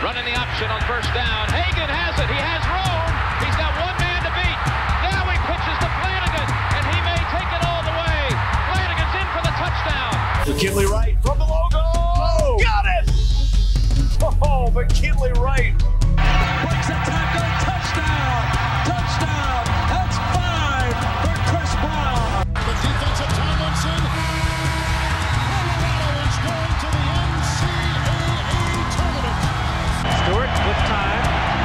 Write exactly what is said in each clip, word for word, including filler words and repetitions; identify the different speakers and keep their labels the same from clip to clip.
Speaker 1: Running the option on first down. Hagan has it. He has room. He's got one man to beat. Now he pitches to Flanagan, and he may take it all the way. Flanagan's in for the touchdown.
Speaker 2: McKinley Wright from the logo. Oh, got it! Oh, McKinley Wright.
Speaker 3: Breaks a tackle. Touchdown. Touchdown. That's five for Chris Brown.
Speaker 4: The defensive Tomlinson. Colorado is going to the N C double A tournament.
Speaker 3: Stewart with time.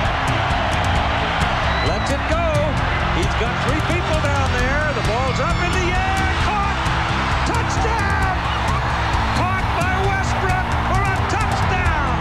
Speaker 3: Lets it go. He's got three people down there. The ball's up in the air. Caught. Touchdown. Caught by Westbrook for a touchdown.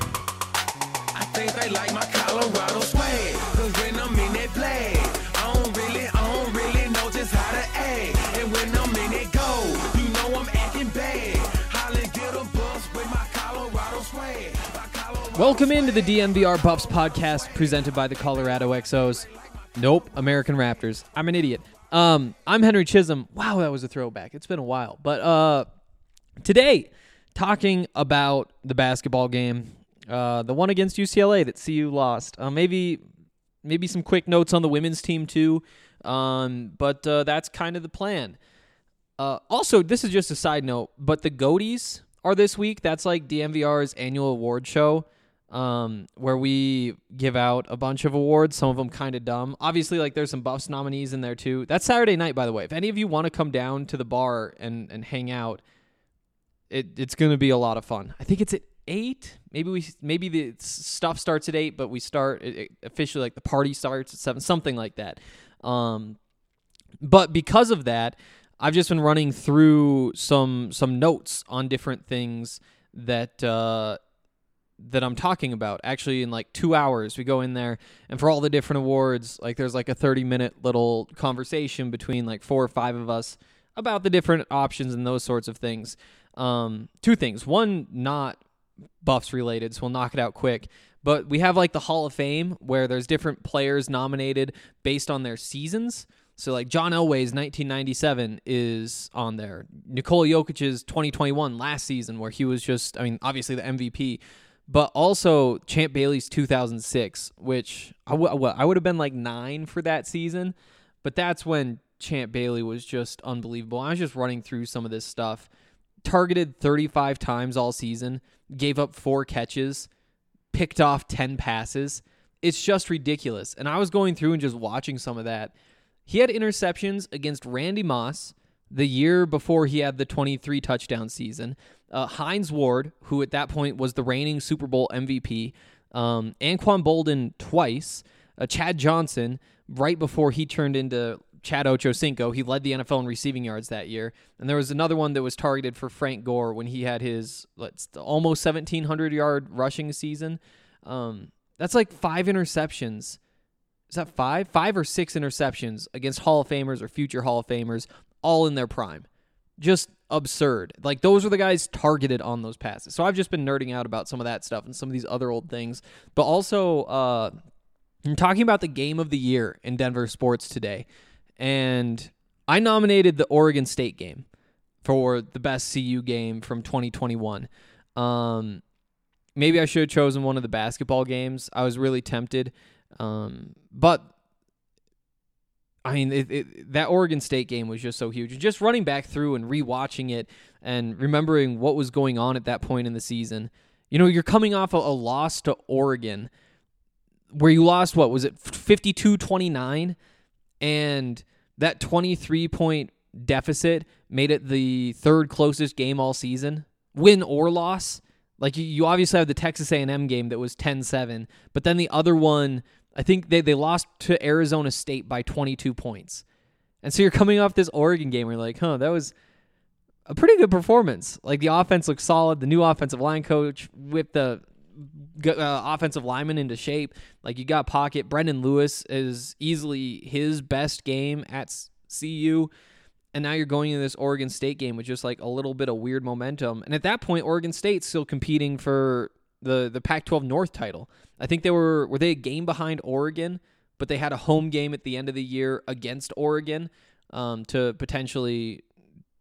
Speaker 5: I think they like my Colorado swag. Cause when I'm in that play, I don't really, I don't really know just how to act. And when I'm in it go, you know I'm acting bad. Holly get a bus with my Colorado swag. My Colorado
Speaker 6: Welcome into the D N V R Buffs podcast presented by the Colorado X Os. Nope, American Raptors. I'm an idiot. Um, I'm Henry Chisholm. Wow, that was a throwback. It's been a while. But uh, today, talking about the basketball game, uh, the one against U C L A that C U lost. Uh, maybe maybe some quick notes on the women's team too. Um, but uh, that's kind of the plan. Uh, also, this is just a side note, but the Goaties are this week. That's like D N V R's annual award show. Um, where we give out a bunch of awards, some of them kind of dumb. Obviously, like there's some Buffs nominees in there too. That's Saturday night, by the way. If any of you want to come down to the bar and, and hang out, it it's going to be a lot of fun. I think it's at eight. Maybe we maybe the stuff starts at eight, but we start it, it, officially like the party starts at seven, something like that. Um, but because of that, I've just been running through some some notes on different things that. Uh, that I'm talking about. Actually, in like two hours, we go in there, and for all the different awards, like there's like a thirty minute little conversation between like four or five of us about the different options and those sorts of things. Um, two things. One, not Buffs related, so we'll knock it out quick. But we have like the Hall of Fame where there's different players nominated based on their seasons. So like John Elway's nineteen ninety-seven is on there. Nikola Jokic's twenty twenty-one last season where he was just, I mean, obviously the M V P. But also Champ Bailey's two thousand six, which I, w- I would have been like nine for that season. But that's when Champ Bailey was just unbelievable. I was just running through some of this stuff. Targeted thirty-five times all season. Gave up four catches. Picked off ten passes. It's just ridiculous. And I was going through and just watching some of that. He had interceptions against Randy Moss the year before he had the twenty-three touchdown season. Uh, Hines Ward, who at that point was the reigning Super Bowl M V P, um, Anquan Bolden twice, uh, Chad Johnson right before he turned into Chad Ochocinco. He led the N F L in receiving yards that year. And there was another one that was targeted for Frank Gore when he had his let's almost seventeen hundred yard rushing season. Um, that's like five interceptions. Is that five? Five or six interceptions against Hall of Famers or future Hall of Famers, all in their prime. Just absurd. Like, those are the guys targeted on those passes. So I've just been nerding out about some of that stuff and some of these other old things. But also, uh, I'm talking about the game of the year in Denver sports today. And I nominated the Oregon State game for the best C U game from twenty twenty-one. Um, maybe I should have chosen one of the basketball games. I was really tempted. Um, but I mean, it, it, that Oregon State game was just so huge. And just running back through and rewatching it and remembering what was going on at that point in the season. You know, you're coming off a, a loss to Oregon where you lost, what was it, fifty-two twenty-nine? And that twenty-three point deficit made it the third closest game all season, win or loss. Like, you, you obviously have the Texas A and M game that was ten seven, but then the other one, I think they, they lost to Arizona State by twenty-two points. And so you're coming off this Oregon game where you're like, huh, that was a pretty good performance. Like, the offense looked solid. The new offensive line coach whipped the uh, offensive lineman into shape. Like, you got pocket. Brendan Lewis is easily his best game at C U. And now you're going into this Oregon State game with just like a little bit of weird momentum. And at that point, Oregon State's still competing for the, the Pac twelve North title. I think they were, were they a game behind Oregon, but they had a home game at the end of the year against Oregon um, to potentially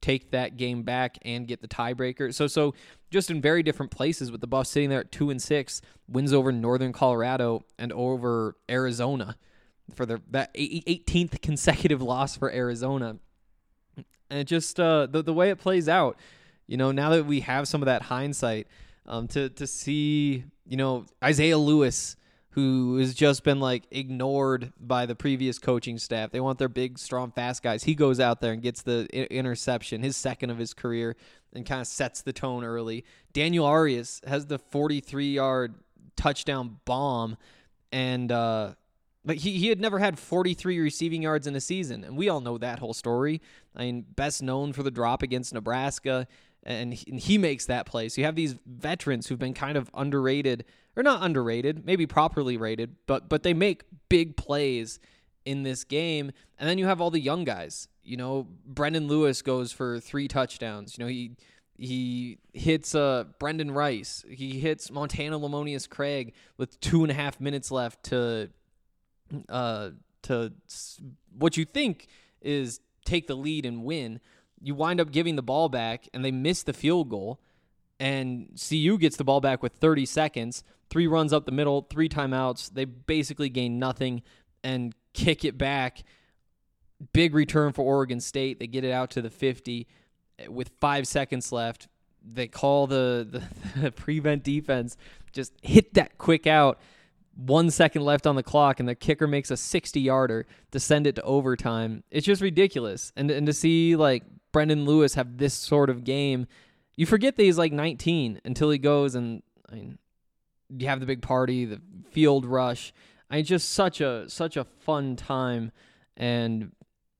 Speaker 6: take that game back and get the tiebreaker. So, so just in very different places, with the Buffs sitting there at two and six, wins over Northern Colorado and over Arizona for their that eighteenth consecutive loss for Arizona. And it just uh, the the way it plays out, you know, now that we have some of that hindsight, um, to to see, you know, Isaiah Lewis, who has just been like ignored by the previous coaching staff. They want their big, strong, fast guys. He goes out there and gets the I- interception, his second of his career, and kind of sets the tone early. Daniel Arias has the forty-three-yard touchdown bomb, and uh, but he, he had never had forty-three receiving yards in a season, and we all know that whole story. I mean, best known for the drop against Nebraska, and he, and he makes that play. So you have these veterans who've been kind of underrated, or not underrated, maybe properly rated, but but they make big plays in this game. And then you have all the young guys. You know, Brendan Lewis goes for three touchdowns. You know, he he hits uh, Brendan Rice. He hits Montana Lamonius Craig with two and a half minutes left to uh to what you think is take the lead and win. You wind up giving the ball back, and they miss the field goal. And C U gets the ball back with thirty seconds, three runs up the middle, three timeouts. They basically gain nothing and kick it back. Big return for Oregon State. They get it out to the fifty with five seconds left. They call the, the, the prevent defense, just hit that quick out. One second left on the clock, and the kicker makes a sixty-yarder to send it to overtime. It's just ridiculous. And, and to see, like, Brendan Lewis have this sort of game, you forget that he's like nineteen until he goes, and I mean, you have the big party, the field rush. I mean, just such a such a fun time, and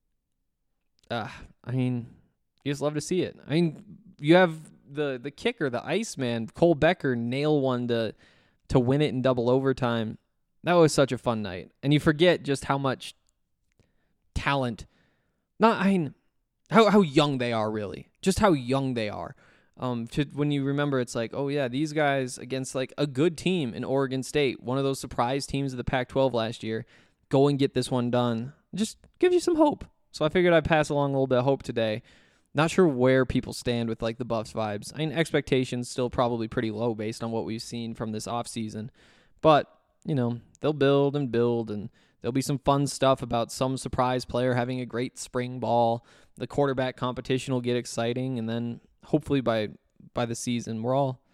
Speaker 6: uh, I mean, you just love to see it. I mean, you have the the kicker, the Iceman, Cole Becker, nail one to to win it in double overtime. That was such a fun night, and you forget just how much talent. Not I mean. How how young they are, really. Just how young they are. Um, to, when you remember, it's like, oh, yeah, these guys against like a good team in Oregon State, one of those surprise teams of the Pac twelve last year, go and get this one done. Just gives you some hope. So I figured I'd pass along a little bit of hope today. Not sure where people stand with like the Buffs vibes. I mean, expectations still probably pretty low based on what we've seen from this offseason. But, you know, they'll build and build, and there'll be some fun stuff about some surprise player having a great spring ball. The quarterback competition will get exciting, and then hopefully by by the season, we're all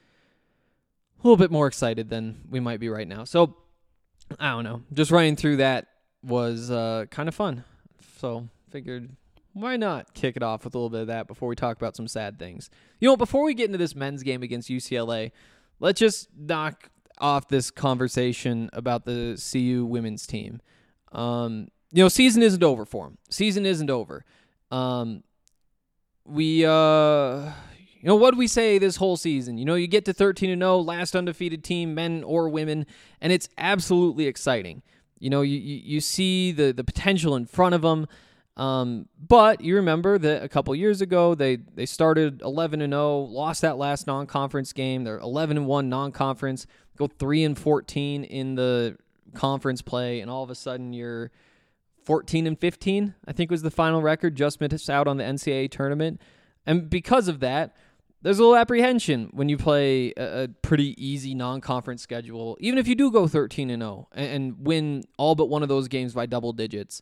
Speaker 6: a little bit more excited than we might be right now. So, I don't know. Just running through that was uh, kind of fun. So, figured, why not kick it off with a little bit of that before we talk about some sad things. You know, before we get into this men's game against U C L A, let's just knock off this conversation about the C U women's team. Um, you know, season isn't over for them. Season isn't over. Um, we, uh, you know, what did we say this whole season? You know, you get to thirteen and oh, last undefeated team, men or women, and it's absolutely exciting. You know, you, you, you see the, the potential in front of them. Um, but you remember that a couple years ago, they, they started eleven and oh, lost that last non-conference game. They're eleven and one non-conference, go three and fourteen in the conference play, and all of a sudden you're fourteen and fifteen, I think was the final record, just missed out on the N C double A tournament. And because of that, there's a little apprehension when you play a, a pretty easy non-conference schedule, even if you do go thirteen and oh and, and win all but one of those games by double digits.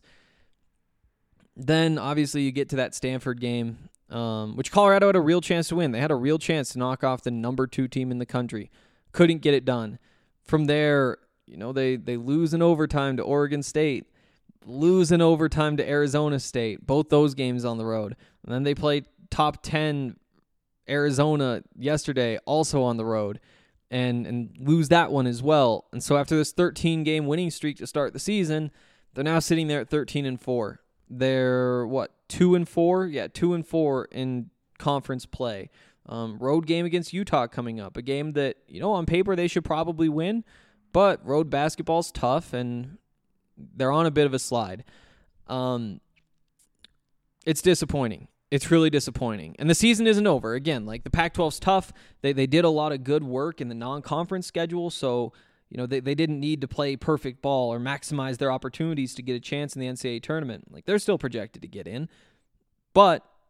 Speaker 6: Then, obviously, you get to that Stanford game, um, which Colorado had a real chance to win. They had a real chance to knock off the number two team in the country. Couldn't get it done. From there, you know, they, they lose in overtime to Oregon State, lose in overtime to Arizona State, both those games on the road. And then they played top ten Arizona yesterday, also on the road, and, and lose that one as well. And so after this thirteen-game winning streak to start the season, they're now sitting there at thirteen and four. They're, what, two and four? Yeah, two and four in conference play. Um, road game against Utah coming up, a game that, you know, on paper they should probably win, but road basketball's tough, and they're on a bit of a slide. Um, it's disappointing. It's really disappointing. And the season isn't over. Again, like the Pac twelve's tough. They they did a lot of good work in the non-conference schedule, so you know, they, they didn't need to play perfect ball or maximize their opportunities to get a chance in the N C double A tournament. Like, they're still projected to get in. But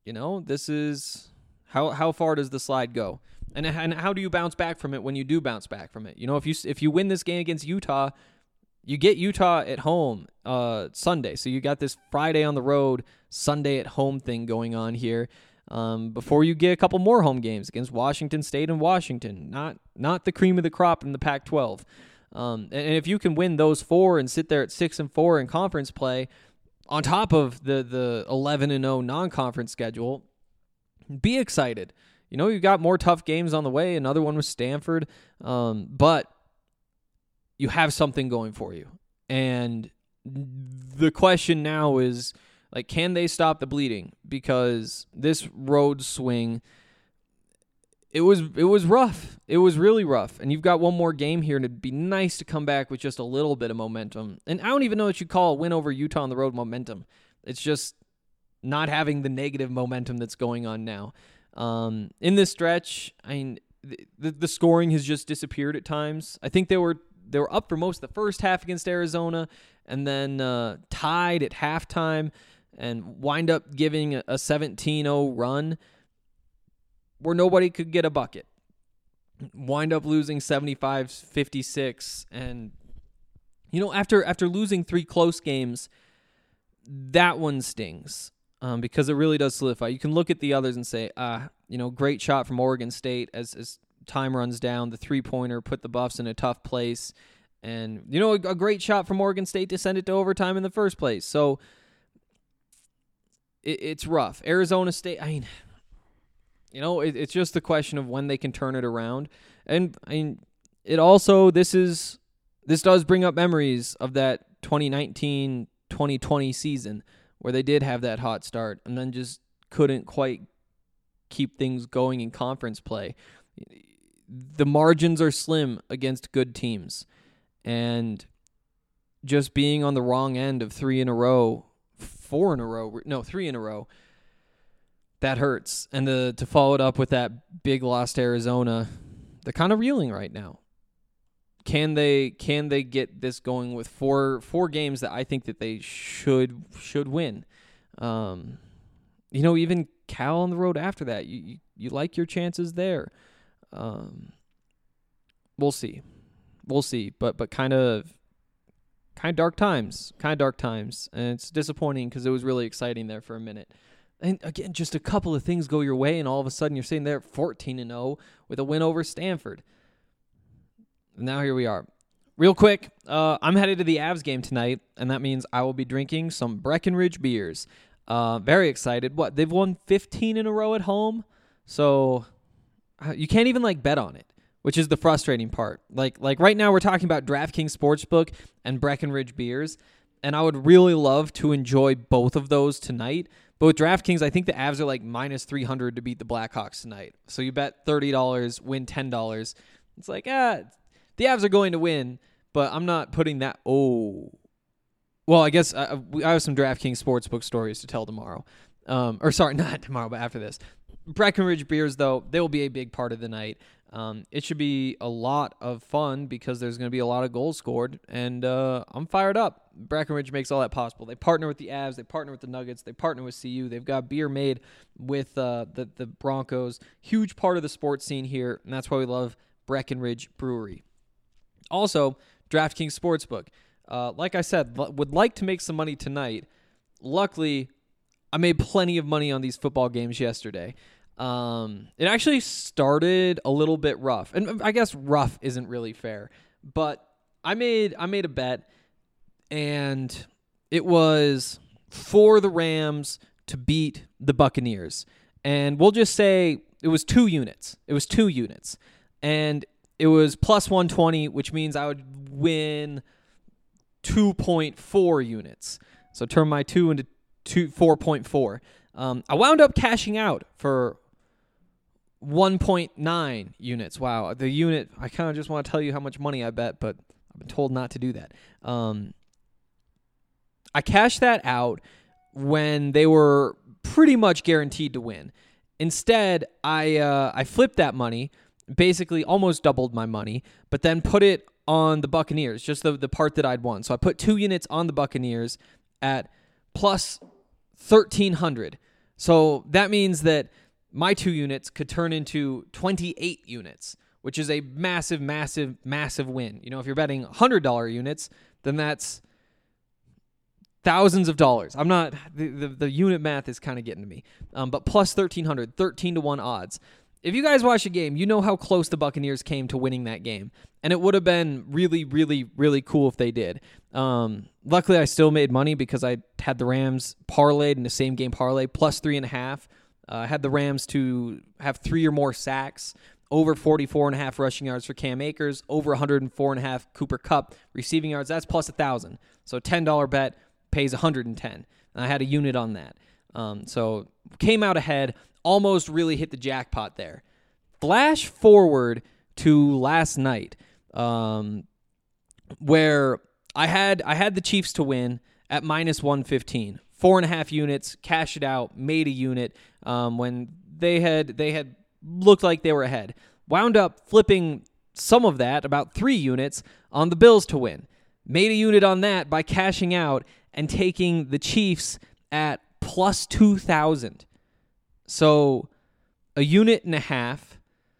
Speaker 6: You know, this is how how far does the slide go? And and how do you bounce back from it when you do bounce back from it? You know, if you if you win this game against Utah, you get Utah at home uh, Sunday. So you got this Friday on the road, Sunday at home thing going on here. Um, before you get a couple more home games against Washington State and Washington, not not the cream of the crop in the Pac twelve. Um, and, and if you can win those four and sit there at six and four in conference play, on top of the the eleven and oh non-conference schedule, be excited. You know, you got more tough games on the way. Another one was Stanford, um, but you have something going for you. And the question now is, like, can they stop the bleeding? Because this road swing, it was it was rough. It was really rough. And you've got one more game here, and it'd be nice to come back with just a little bit of momentum. And I don't even know what you call a win over Utah on the road momentum. It's just not having the negative momentum that's going on now. Um, in this stretch, I mean, the, the scoring has just disappeared at times. I think they were they were up for most of the first half against Arizona, and then uh, tied at halftime, and wind up giving a seventeen oh run where nobody could get a bucket. Wind up losing seventy-five fifty-six, and you know, after after losing three close games, that one stings. Um, because it really does solidify. You can look at the others and say, ah, you know, great shot from Oregon State as, as time runs down. The three-pointer put the Buffs in a tough place. And, you know, a, a great shot from Oregon State to send it to overtime in the first place. So it, it's rough. Arizona State, I mean, you know, it, it's just the question of when they can turn it around. And, I mean, it also, this is, this does bring up memories of that twenty nineteen twenty twenty season, where they did have that hot start and then just couldn't quite keep things going in conference play. The margins are slim against good teams, and just being on the wrong end of three in a row, four in a row, no, three in a row, that hurts. And the, to follow it up with that big loss to Arizona, they're kind of reeling right now. Can they can they get this going with four four games that I think that they should should win? Um, you know, even Cal on the road after that, you you, you like your chances there. Um, we'll see, we'll see. But but kind of kind of dark times, kind of dark times, and it's disappointing because it was really exciting there for a minute. And again, just a couple of things go your way, and all of a sudden you're sitting there at fourteen and oh with a win over Stanford. Now here we are. Real quick, uh, I'm headed to the Avs game tonight, and that means I will be drinking some Breckenridge beers. Uh, very excited. What, they've won fifteen in a row at home? So uh, you can't even like bet on it, which is the frustrating part. Like like right now we're talking about DraftKings Sportsbook and Breckenridge beers, and I would really love to enjoy both of those tonight. But with DraftKings, I think the Avs are like minus three hundred to beat the Blackhawks tonight. So you bet thirty dollars, win ten dollars. It's like, ah, the Avs are going to win, but I'm not putting that. Oh, well, I guess I, I have some DraftKings Sportsbook stories to tell tomorrow. Um, or sorry, not tomorrow, but after this. Breckenridge beers, though, they will be a big part of the night. Um, it should be a lot of fun because there's going to be a lot of goals scored, and uh, I'm fired up. Breckenridge makes all that possible. They partner with the Avs, they partner with the Nuggets, they partner with C U. They've got beer made with uh, the the Broncos. Huge part of the sports scene here, and that's why we love Breckenridge Brewery. Also, DraftKings Sportsbook. Uh, like I said, l- would like to make some money tonight. Luckily, I made plenty of money on these football games yesterday. Um, it actually started a little bit rough, and I guess rough isn't really fair, but I made I made a bet, and it was for the Rams to beat the Buccaneers, and we'll just say it was two units. It was two units, and it was plus one twenty, which means I would win two point four units. So turn my two into two four point four. Um, I wound up cashing out for one point nine units. Wow, the unit, I kind of just want to tell you how much money I bet, but I've been told not to do that. Um, I cashed that out when they were pretty much guaranteed to win. Instead, I uh, I flipped that money, basically almost doubled my money, but then put it on the Buccaneers, just the, the part that I'd won. So I put two units on the Buccaneers at plus thirteen hundred. So that means that my two units could turn into twenty-eight units, which is a massive, massive, massive win. You know, if you're betting one hundred dollars units, then that's thousands of dollars. I'm not, the, the, the unit math is kind of getting to me. Um, but plus thirteen hundred, thirteen to one odds. If you guys watch the game, you know how close the Buccaneers came to winning that game. And it would have been really, really, really cool if they did. Um, luckily, I still made money because I had the Rams parlayed in the same game parlay, plus three and a half. Uh, I had the Rams to have three or more sacks, over forty-four and a half rushing yards for Cam Akers, over one hundred four and a half Cooper Kupp receiving yards. That's plus one thousand. So ten dollars bet pays one hundred ten. And I had a unit on that. Um, so came out ahead, almost really hit the jackpot there. Flash forward to last night, um, where I had I had the Chiefs to win at minus one fifteen. Four and a half units, cash it out, made a unit um, when they had they had looked like they were ahead. Wound up flipping some of that, about three units, on the Bills to win. Made a unit on that by cashing out and taking the Chiefs at plus two thousand. So a unit and a half,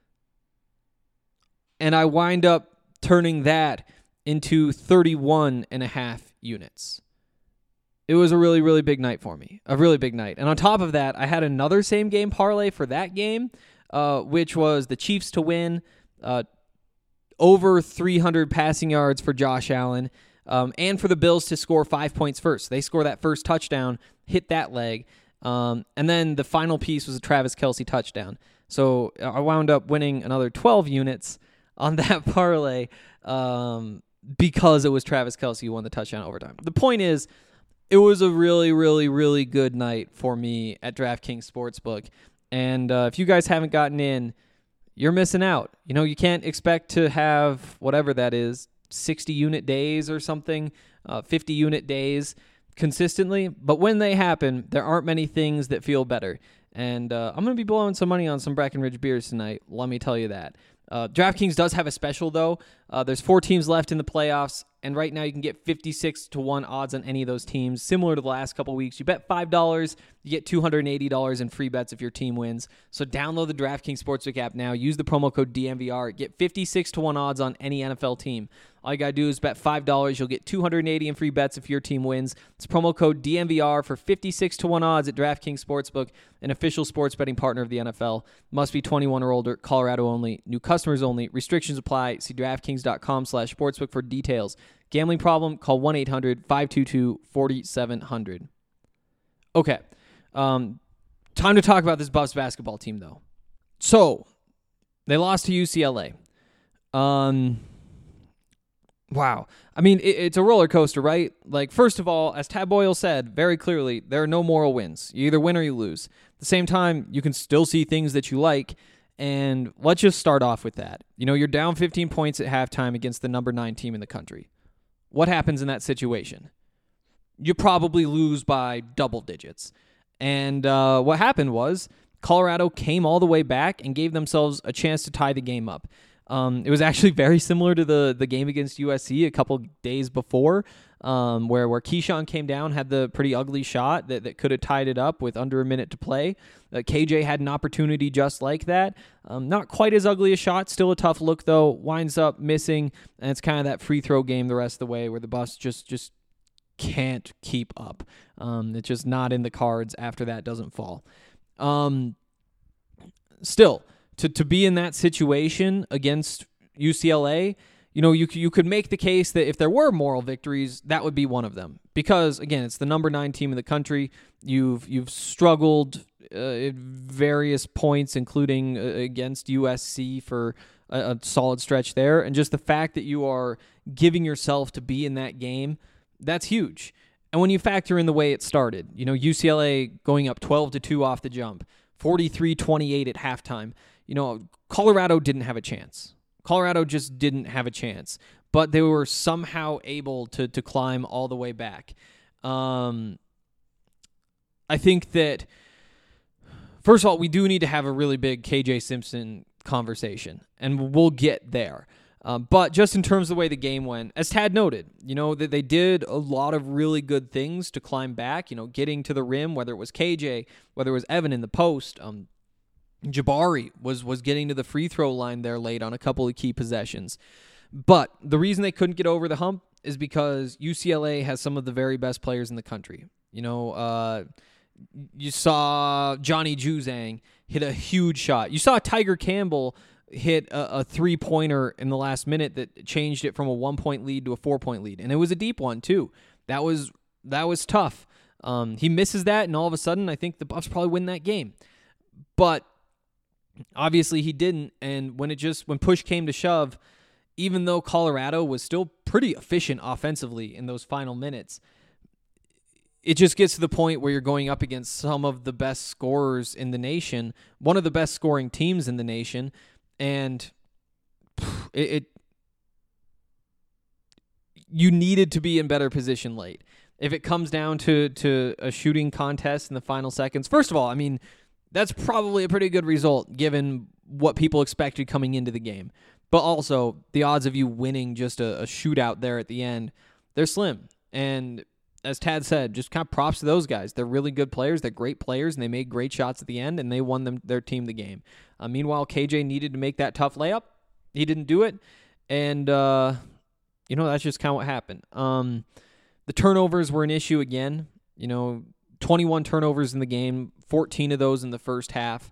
Speaker 6: and I wind up turning that into thirty-one and a half units. It was a really, really big night for me. A really big night. And on top of that, I had another same game parlay for that game, uh, which was the Chiefs to win, uh, over three hundred passing yards for Josh Allen, um, and for the Bills to score five points first. They score that first touchdown, hit that leg, um, and then the final piece was a Travis Kelce touchdown. So I wound up winning another twelve units on that parlay um, because it was Travis Kelce who won the touchdown overtime. The point is, it was a really, really, really good night for me at DraftKings Sportsbook. And uh, if you guys haven't gotten in, you're missing out. You know, you can't expect to have whatever that is, sixty unit days or something, uh, fifty unit days consistently. But when they happen, there aren't many things that feel better. And uh, I'm going to be blowing some money on some Breckenridge beers tonight. Let me tell you that. Uh, DraftKings does have a special, though. Uh, there's four teams left in the playoffs, and right now you can get fifty-six to one odds on any of those teams, similar to the last couple weeks. You bet five dollars, you get two hundred eighty dollars in free bets if your team wins. So download the DraftKings Sportsbook app now. Use the promo code D M V R. Get fifty-six to one odds on any N F L team. All you got to do is bet five dollars. You'll get two hundred eighty dollars in free bets if your team wins. It's promo code D M V R for fifty-six to one odds at DraftKings Sportsbook, an official sports betting partner of the N F L. Must be twenty-one or older. Colorado only. New customers only. Restrictions apply. See DraftKings.com slash sportsbook for details. Gambling problem? Call one eight hundred five two two four seven zero zero. Okay. Um, time to talk about this Buffs basketball team, though. So, they lost to U C L A. Um... Wow. I mean, it, it's a roller coaster, right? Like, first of all, as Tad Boyle said very clearly, there are no moral wins. You either win or you lose. At the same time, you can still see things that you like, and let's just start off with that. You know, you're down fifteen points at halftime against the number nine team in the country. What happens in that situation? You probably lose by double digits. And uh, what happened was Colorado came all the way back and gave themselves a chance to tie the game up. Um, it was actually very similar to the the game against U S C a couple days before, um, where where Keyshawn came down, had the pretty ugly shot that, that could have tied it up with under a minute to play. Uh, K J had an opportunity just like that. Um, not quite as ugly a shot, still a tough look though. Winds up missing, and it's kind of that free throw game the rest of the way where the Buffs just just can't keep up. Um, it's just not in the cards after that doesn't fall. Um, still. To to be in that situation against U C L A, you know, you you could make the case that if there were moral victories, that would be one of them. Because again, it's the number nine team in the country. You've you've struggled uh, at various points, including uh, against U S C for a, a solid stretch there, and just the fact that you are giving yourself to be in that game, that's huge. And when you factor in the way it started, you know, U C L A going up twelve to two off the jump, forty-three twenty-eight at halftime. You know, Colorado didn't have a chance. Colorado just didn't have a chance. But they were somehow able to to climb all the way back. Um, I think that, first of all, we do need to have a really big K J Simpson conversation. And we'll get there. Um, but just in terms of the way the game went, as Tad noted, you know, that they did a lot of really good things to climb back, you know, getting to the rim, whether it was K J, whether it was Evan in the post. Um, Jabari was, was getting to the free throw line there late on a couple of key possessions. But the reason they couldn't get over the hump is because U C L A has some of the very best players in the country. You know, uh, you saw Johnny Juzang hit a huge shot. You saw Tiger Campbell hit a, a three-pointer in the last minute that changed it from a one-point lead to a four-point lead. And it was a deep one, too. That was that was tough. Um, he misses that, and all of a sudden, I think the Buffs probably win that game. But obviously he didn't, and when it just when push came to shove, even though Colorado was still pretty efficient offensively in those final minutes, it just gets to the point where you're going up against some of the best scorers in the nation, one of the best scoring teams in the nation, and it, it you needed to be in better position late. If it comes down to, to a shooting contest in the final seconds, first of all, I mean, that's probably a pretty good result given what people expected coming into the game. But also, the odds of you winning just a, a shootout there at the end, they're slim. And as Tad said, just kind of props to those guys. They're really good players. They're great players, and they made great shots at the end, and they won them their team the game. Uh, meanwhile, K J needed to make that tough layup. He didn't do it. And, uh, you know, that's just kind of what happened. Um, the turnovers were an issue again. You know, twenty-one turnovers in the game, fourteen of those in the first half.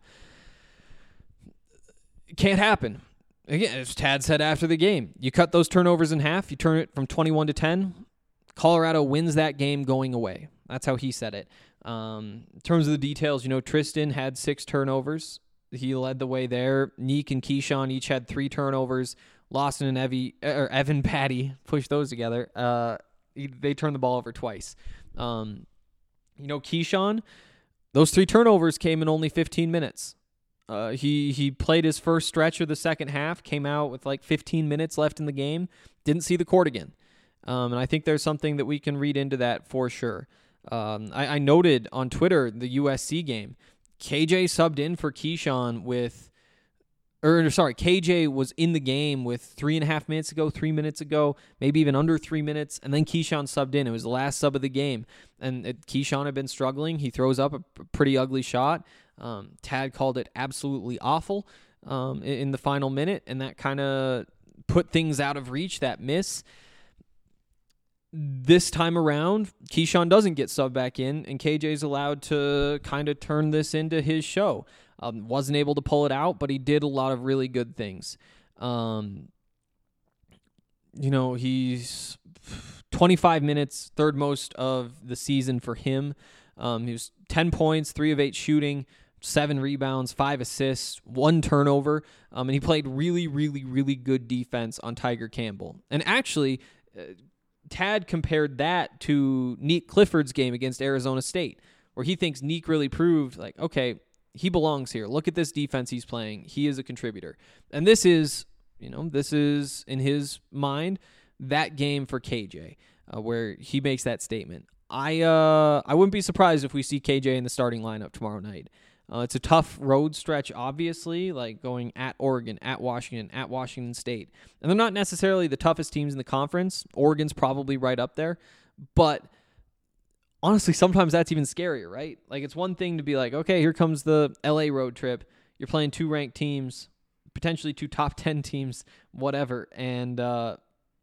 Speaker 6: It can't happen. Again, as Tad said after the game, you cut those turnovers in half, you turn it from twenty-one to ten, Colorado wins that game going away. That's how he said it. Um, in terms of the details, you know, Tristan had six turnovers. He led the way there. Neek and Keyshawn each had three turnovers. Lawson and Evie, or Evan Patty, pushed those together. Uh, they turned the ball over twice. Um, you know, Keyshawn, those three turnovers came in only fifteen minutes. Uh, he he played his first stretch of the second half, came out with like fifteen minutes left in the game, didn't see the court again. Um, and I think there's something that we can read into that for sure. Um, I, I noted on Twitter the U S C game. K J subbed in for Keyshawn with, or sorry, K J was in the game with three and a half minutes ago, three minutes ago, maybe even under three minutes, and then Keyshawn subbed in. It was the last sub of the game, and it, Keyshawn had been struggling. He throws up a p- pretty ugly shot. Um, Tad called it absolutely awful um, in, in the final minute, and that kind of put things out of reach, that miss. This time around, Keyshawn doesn't get subbed back in, and K J's allowed to kind of turn this into his show. Um, wasn't able to pull it out, but he did a lot of really good things. Um, you know, he's twenty-five minutes, third most of the season for him. Um, he was ten points, three of eight shooting, seven rebounds, five assists, one turnover, um, and he played really, really, really good defense on Tiger Campbell. And actually, uh, Tad compared that to Neek Clifford's game against Arizona State, where he thinks Neek really proved, like, okay, he belongs here. Look at this defense he's playing. He is a contributor. And this is, you know, this is, in his mind, that game for K J, uh, where he makes that statement. I uh, I wouldn't be surprised if we see K J in the starting lineup tomorrow night. Uh, it's a tough road stretch, obviously, like going at Oregon, at Washington, at Washington State. And they're not necessarily the toughest teams in the conference. Oregon's probably right up there. But honestly, sometimes that's even scarier, right? Like, it's one thing to be like, okay, here comes the L A road trip. You're playing two ranked teams, potentially two top ten teams, whatever. And, uh,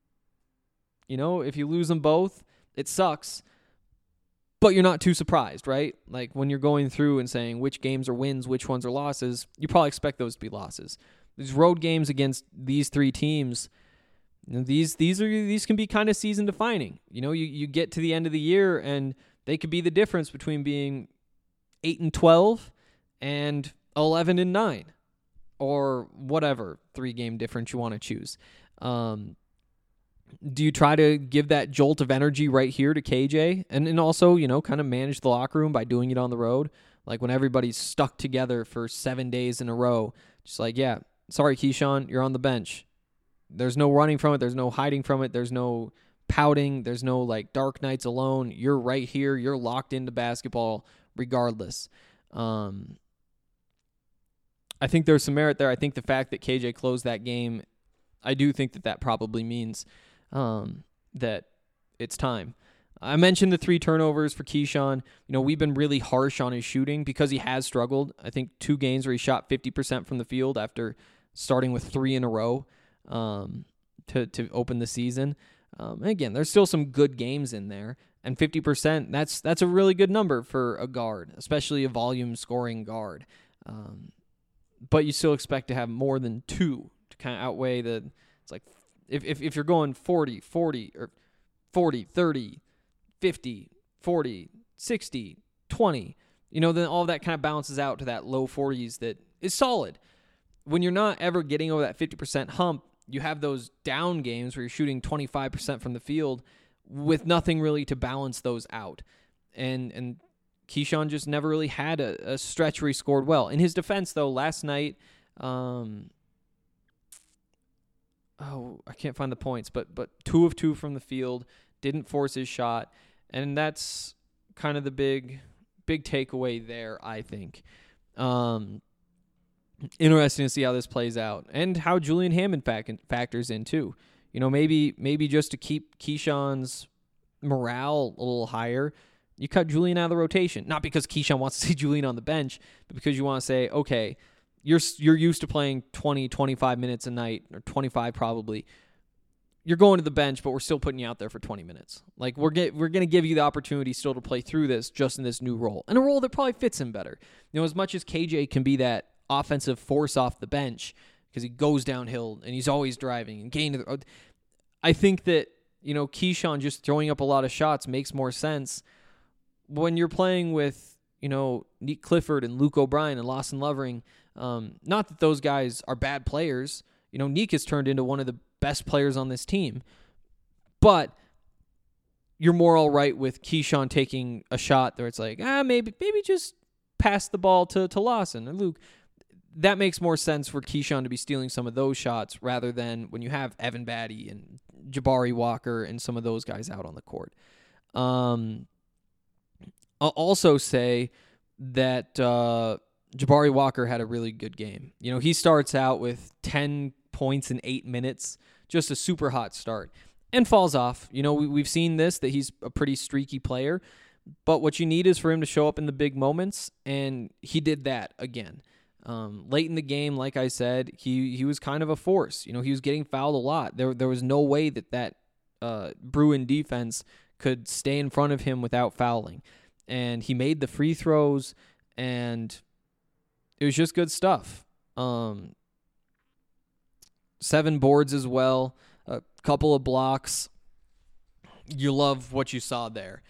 Speaker 6: you know, if you lose them both, it sucks. But you're not too surprised, right? Like, when you're going through and saying which games are wins, which ones are losses, you probably expect those to be losses. These road games against these three teams, you know, these these are these can be kind of season defining. You know, you, you get to the end of the year and they could be the difference between being eight and twelve and eleven and nine, or whatever three game difference you want to choose. Um, Do you try to give that jolt of energy right here to K J? And, and also, you know, kind of manage the locker room by doing it on the road? Like, when everybody's stuck together for seven days in a row, just like, yeah, sorry, Keyshawn, you're on the bench. There's no running from it. There's no hiding from it. There's no pouting. There's no, like, dark nights alone. You're right here. You're locked into basketball regardless. Um, I think there's some merit there. I think the fact that K J closed that game I do think that that probably means um, that it's time. I mentioned the three turnovers for Keyshawn. You know, we've been really harsh on his shooting because he has struggled. I think two games where he shot fifty percent from the field after starting with three in a row um, to, to open the season. Um, and again, there's still some good games in there. And fifty percent, that's that's a really good number for a guard, especially a volume scoring guard. Um, but you still expect to have more than two to kind of outweigh the, it's like, if, if, if you're going forty, forty, or forty, thirty, fifty, forty, sixty, twenty, you know, then all that kind of balances out to that low forties that is solid. When you're not ever getting over that fifty percent hump, you have those down games where you're shooting twenty-five percent from the field with nothing really to balance those out. And and Keyshawn just never really had a, a stretch where he scored well. In his defense, though, last night, um, oh, I can't find the points, but but two of two from the field, didn't force his shot, and that's kind of the big big takeaway there, I think. Um, interesting to see how this plays out and how Julian Hammond fac- factors in too. You know, maybe maybe just to keep Keyshawn's morale a little higher, you cut Julian out of the rotation. Not because Keyshawn wants to see Julian on the bench, but because you want to say, okay, you're you're used to playing twenty, twenty-five minutes a night, or twenty-five probably. You're going to the bench, but we're still putting you out there for twenty minutes. Like, we're get, we're going to give you the opportunity still to play through this just in this new role, and a role that probably fits him better. You know, as much as K J can be that offensive force off the bench because he goes downhill and he's always driving and gaining the, I think that, you know, Keyshawn just throwing up a lot of shots makes more sense when you're playing with, you know, Nick Clifford and Luke O'Brien and Lawson Lovering. Um, not that those guys are bad players. You know, Nick has turned into one of the best players on this team. But you're more all right with Keyshawn taking a shot where it's like, ah, maybe maybe just pass the ball to, to Lawson or Luke. That makes more sense for Keyshawn to be stealing some of those shots rather than when you have Evan Batty and Jabari Walker and some of those guys out on the court. Um, I'll also say that uh, Jabari Walker had a really good game. You know, he starts out with ten points in eight minutes, just a super hot start, and falls off. You know, we, we've seen this, that he's a pretty streaky player, but what you need is for him to show up in the big moments, and he did that again. Um, late in the game, like I said, he he was kind of a force. You know, he was getting fouled a lot. There there was no way that that uh, Bruin defense could stay in front of him without fouling. And he made the free throws, and it was just good stuff. Um, seven boards as well, a couple of blocks. You love what you saw there.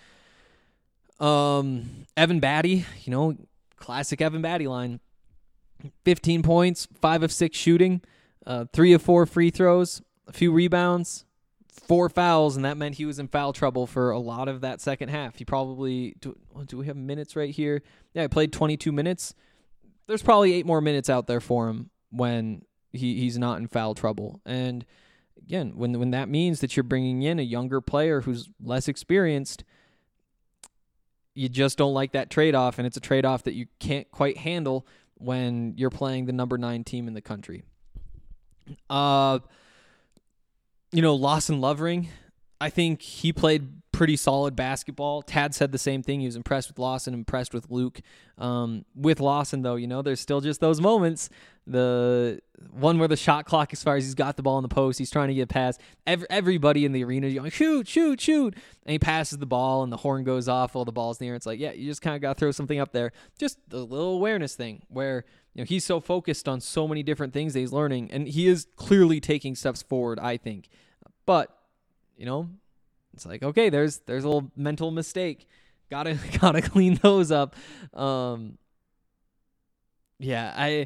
Speaker 6: Um, Evan Batty, you know, classic Evan Batty line. fifteen points, five of six shooting, uh, three of four free throws, a few rebounds, four fouls, and that meant he was in foul trouble for a lot of that second half. He probably, do, do we have minutes right here? Yeah, he played twenty-two minutes. There's probably eight more minutes out there for him when he, he's not in foul trouble. And again, when when that means that you're bringing in a younger player who's less experienced, you just don't like that trade-off, and it's a trade-off that you can't quite handle when you're playing the number nine team in the country. Uh, you know, Lawson Lovering, I think he played pretty solid basketball. Tad said the same thing. He was impressed with Lawson, impressed with Luke. Um, with Lawson, though, you know, there's still just those moments. The one where the shot clock expires, he's got the ball in the post, he's trying to get past. Every, everybody in the arena is going, shoot, shoot, shoot. And he passes the ball, and the horn goes off while the ball's in the air. It's like, yeah, you just kind of got to throw something up there. Just a little awareness thing where, you know, he's so focused on so many different things that he's learning, and he is clearly taking steps forward, I think. But, you know, it's like, okay, there's there's a little mental mistake. Gotta gotta clean those up. Um, yeah, I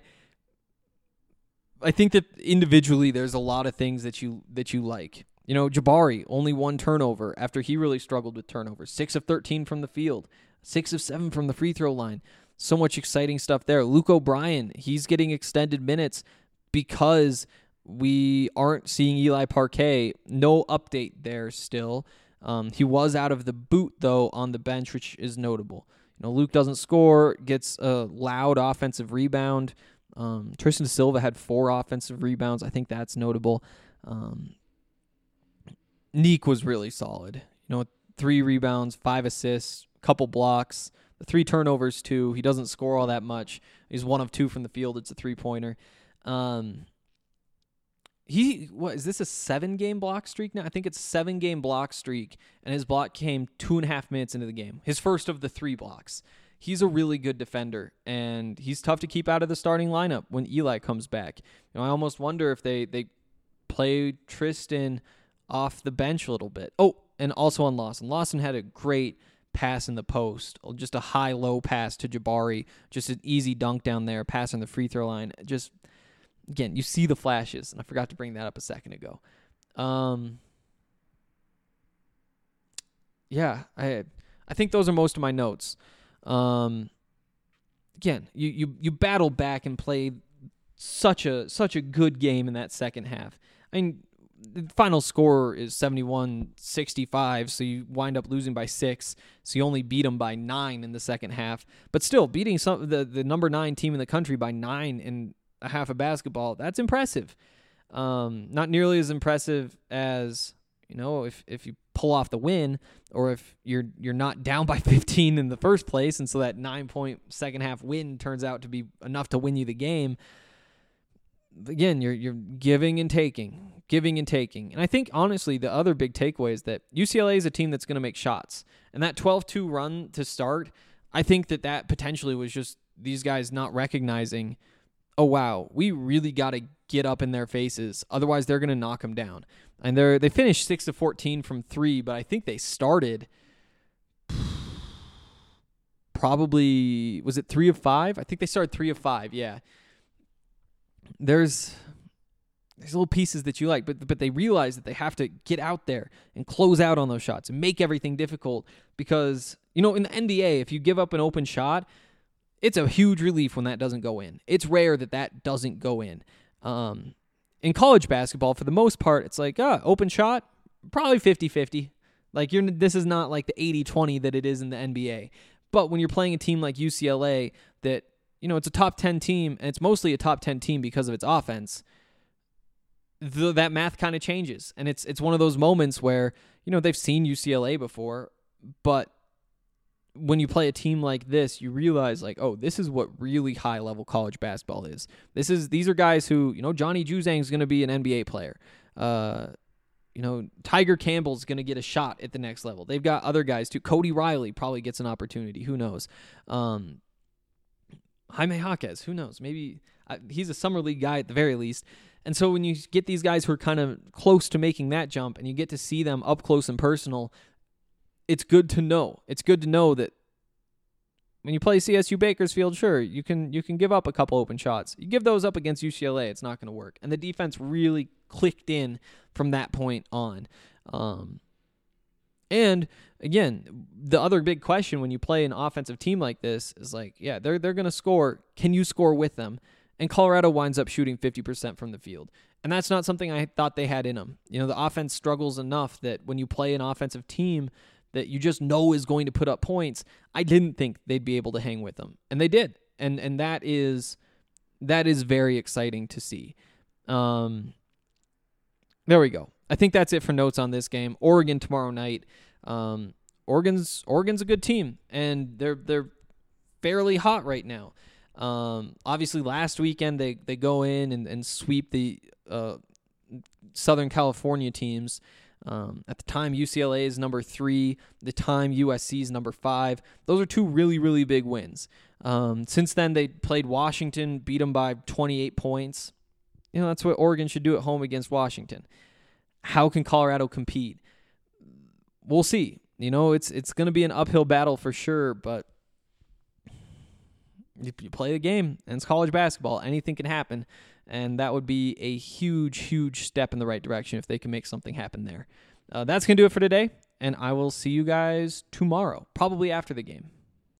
Speaker 6: I think that individually there's a lot of things that you that you like. You know, Jabari, only one turnover after he really struggled with turnovers. Six of thirteen from the field, six of seven from the free throw line. So much exciting stuff there. Luke O'Brien, he's getting extended minutes because we aren't seeing Eli Parquet. No update there still. Um, he was out of the boot, though, on the bench, which is notable. You know, Luke doesn't score, gets a loud offensive rebound. Um, Tristan Silva had four offensive rebounds. I think that's notable. Um, Neek was really solid. You know, three rebounds, five assists, couple blocks, the three turnovers too. He doesn't score all that much. He's one of two from the field. It's a three-pointer. Um, he what is this a seven-game block streak now? I think it's a seven-game block streak, and his block came two and a half minutes into the game. His first of the three blocks. He's a really good defender, and he's tough to keep out of the starting lineup when Eli comes back. You know, I almost wonder if they they play Tristan off the bench a little bit. Oh, and also on Lawson. Lawson had a great pass in the post, just a high-low pass to Jabari, just an easy dunk down there, pass on the free throw line. Just, again, you see the flashes, and I forgot to bring that up a second ago. Um, yeah, I I think those are most of my notes. Um, again, you, you, you battle back and play such a such a good game in that second half. I mean, the final score is seventy-one sixty-five, so you wind up losing by six, so you only beat them by nine in the second half. But still, beating some the, the number nine team in the country by nine in a half of basketball, that's impressive. Um, not nearly as impressive as, you know, if, if you pull off the win, or if you're you're not down by fifteen in the first place, and so that nine-point second-half win turns out to be enough to win you the game. Again, you're you're giving and taking, giving and taking. And I think, honestly, the other big takeaway is that U C L A is a team that's going to make shots. And that twelve two run to start, I think that that potentially was just these guys not recognizing, oh, wow, we really got to get up in their faces. Otherwise, they're going to knock them down. And they they finished six of fourteen from three, but I think they started probably, was it three of five? I think they started three of five, yeah. There's there's little pieces that you like, but but they realize that they have to get out there and close out on those shots and make everything difficult because, you know, in the N B A, if you give up an open shot, it's a huge relief when that doesn't go in. It's rare that that doesn't go in. Um, in college basketball, for the most part, it's like, ah, open shot, probably fifty-fifty. Like, you're this is not like the eighty twenty that it is in the N B A. But when you're playing a team like U C L A that, you know, it's a top ten team, and it's mostly a top ten team because of its offense, the, that math kind of changes. And it's it's one of those moments where, you know, they've seen U C L A before, but when you play a team like this, you realize, like, oh, this is what really high-level college basketball is. This is These are guys who, you know, Johnny Juzang is going to be an N B A player. Uh, you know, Tiger Campbell's going to get a shot at the next level. They've got other guys, too. Cody Riley probably gets an opportunity. Who knows? Um Jaime Jaquez, who knows? Maybe uh, he's a summer league guy at the very least. And so when you get these guys who are kind of close to making that jump and you get to see them up close and personal, it's good to know. It's good to know that when you play C S U Bakersfield, sure, you can you can give up a couple open shots. You give those up against U C L A, it's not going to work. And the defense really clicked in from that point on. Um, and again, the other big question when you play an offensive team like this is like, yeah, they're they're going to score. Can you score with them? And Colorado winds up shooting fifty percent from the field. And that's not something I thought they had in them. You know, the offense struggles enough that when you play an offensive team that you just know is going to put up points, I didn't think they'd be able to hang with them. And they did. And and that is that is very exciting to see. Um, there we go. I think that's it for notes on this game. Oregon tomorrow night. Um, Oregon's Oregon's a good team, and they're they're fairly hot right now. Um, obviously, last weekend they, they go in and, and sweep the uh, Southern California teams. Um, at the time, U C L A is number three. The time, U S C is number five. Those are two really, really big wins. Um, since then, they played Washington, beat them by twenty-eight points. You know, that's what Oregon should do at home against Washington. How can Colorado compete? We'll see. You know, it's it's going to be an uphill battle for sure, but you, you play the game, and it's college basketball. Anything can happen, and that would be a huge, huge step in the right direction if they can make something happen there. Uh, that's going to do it for today, and I will see you guys tomorrow, probably after the game.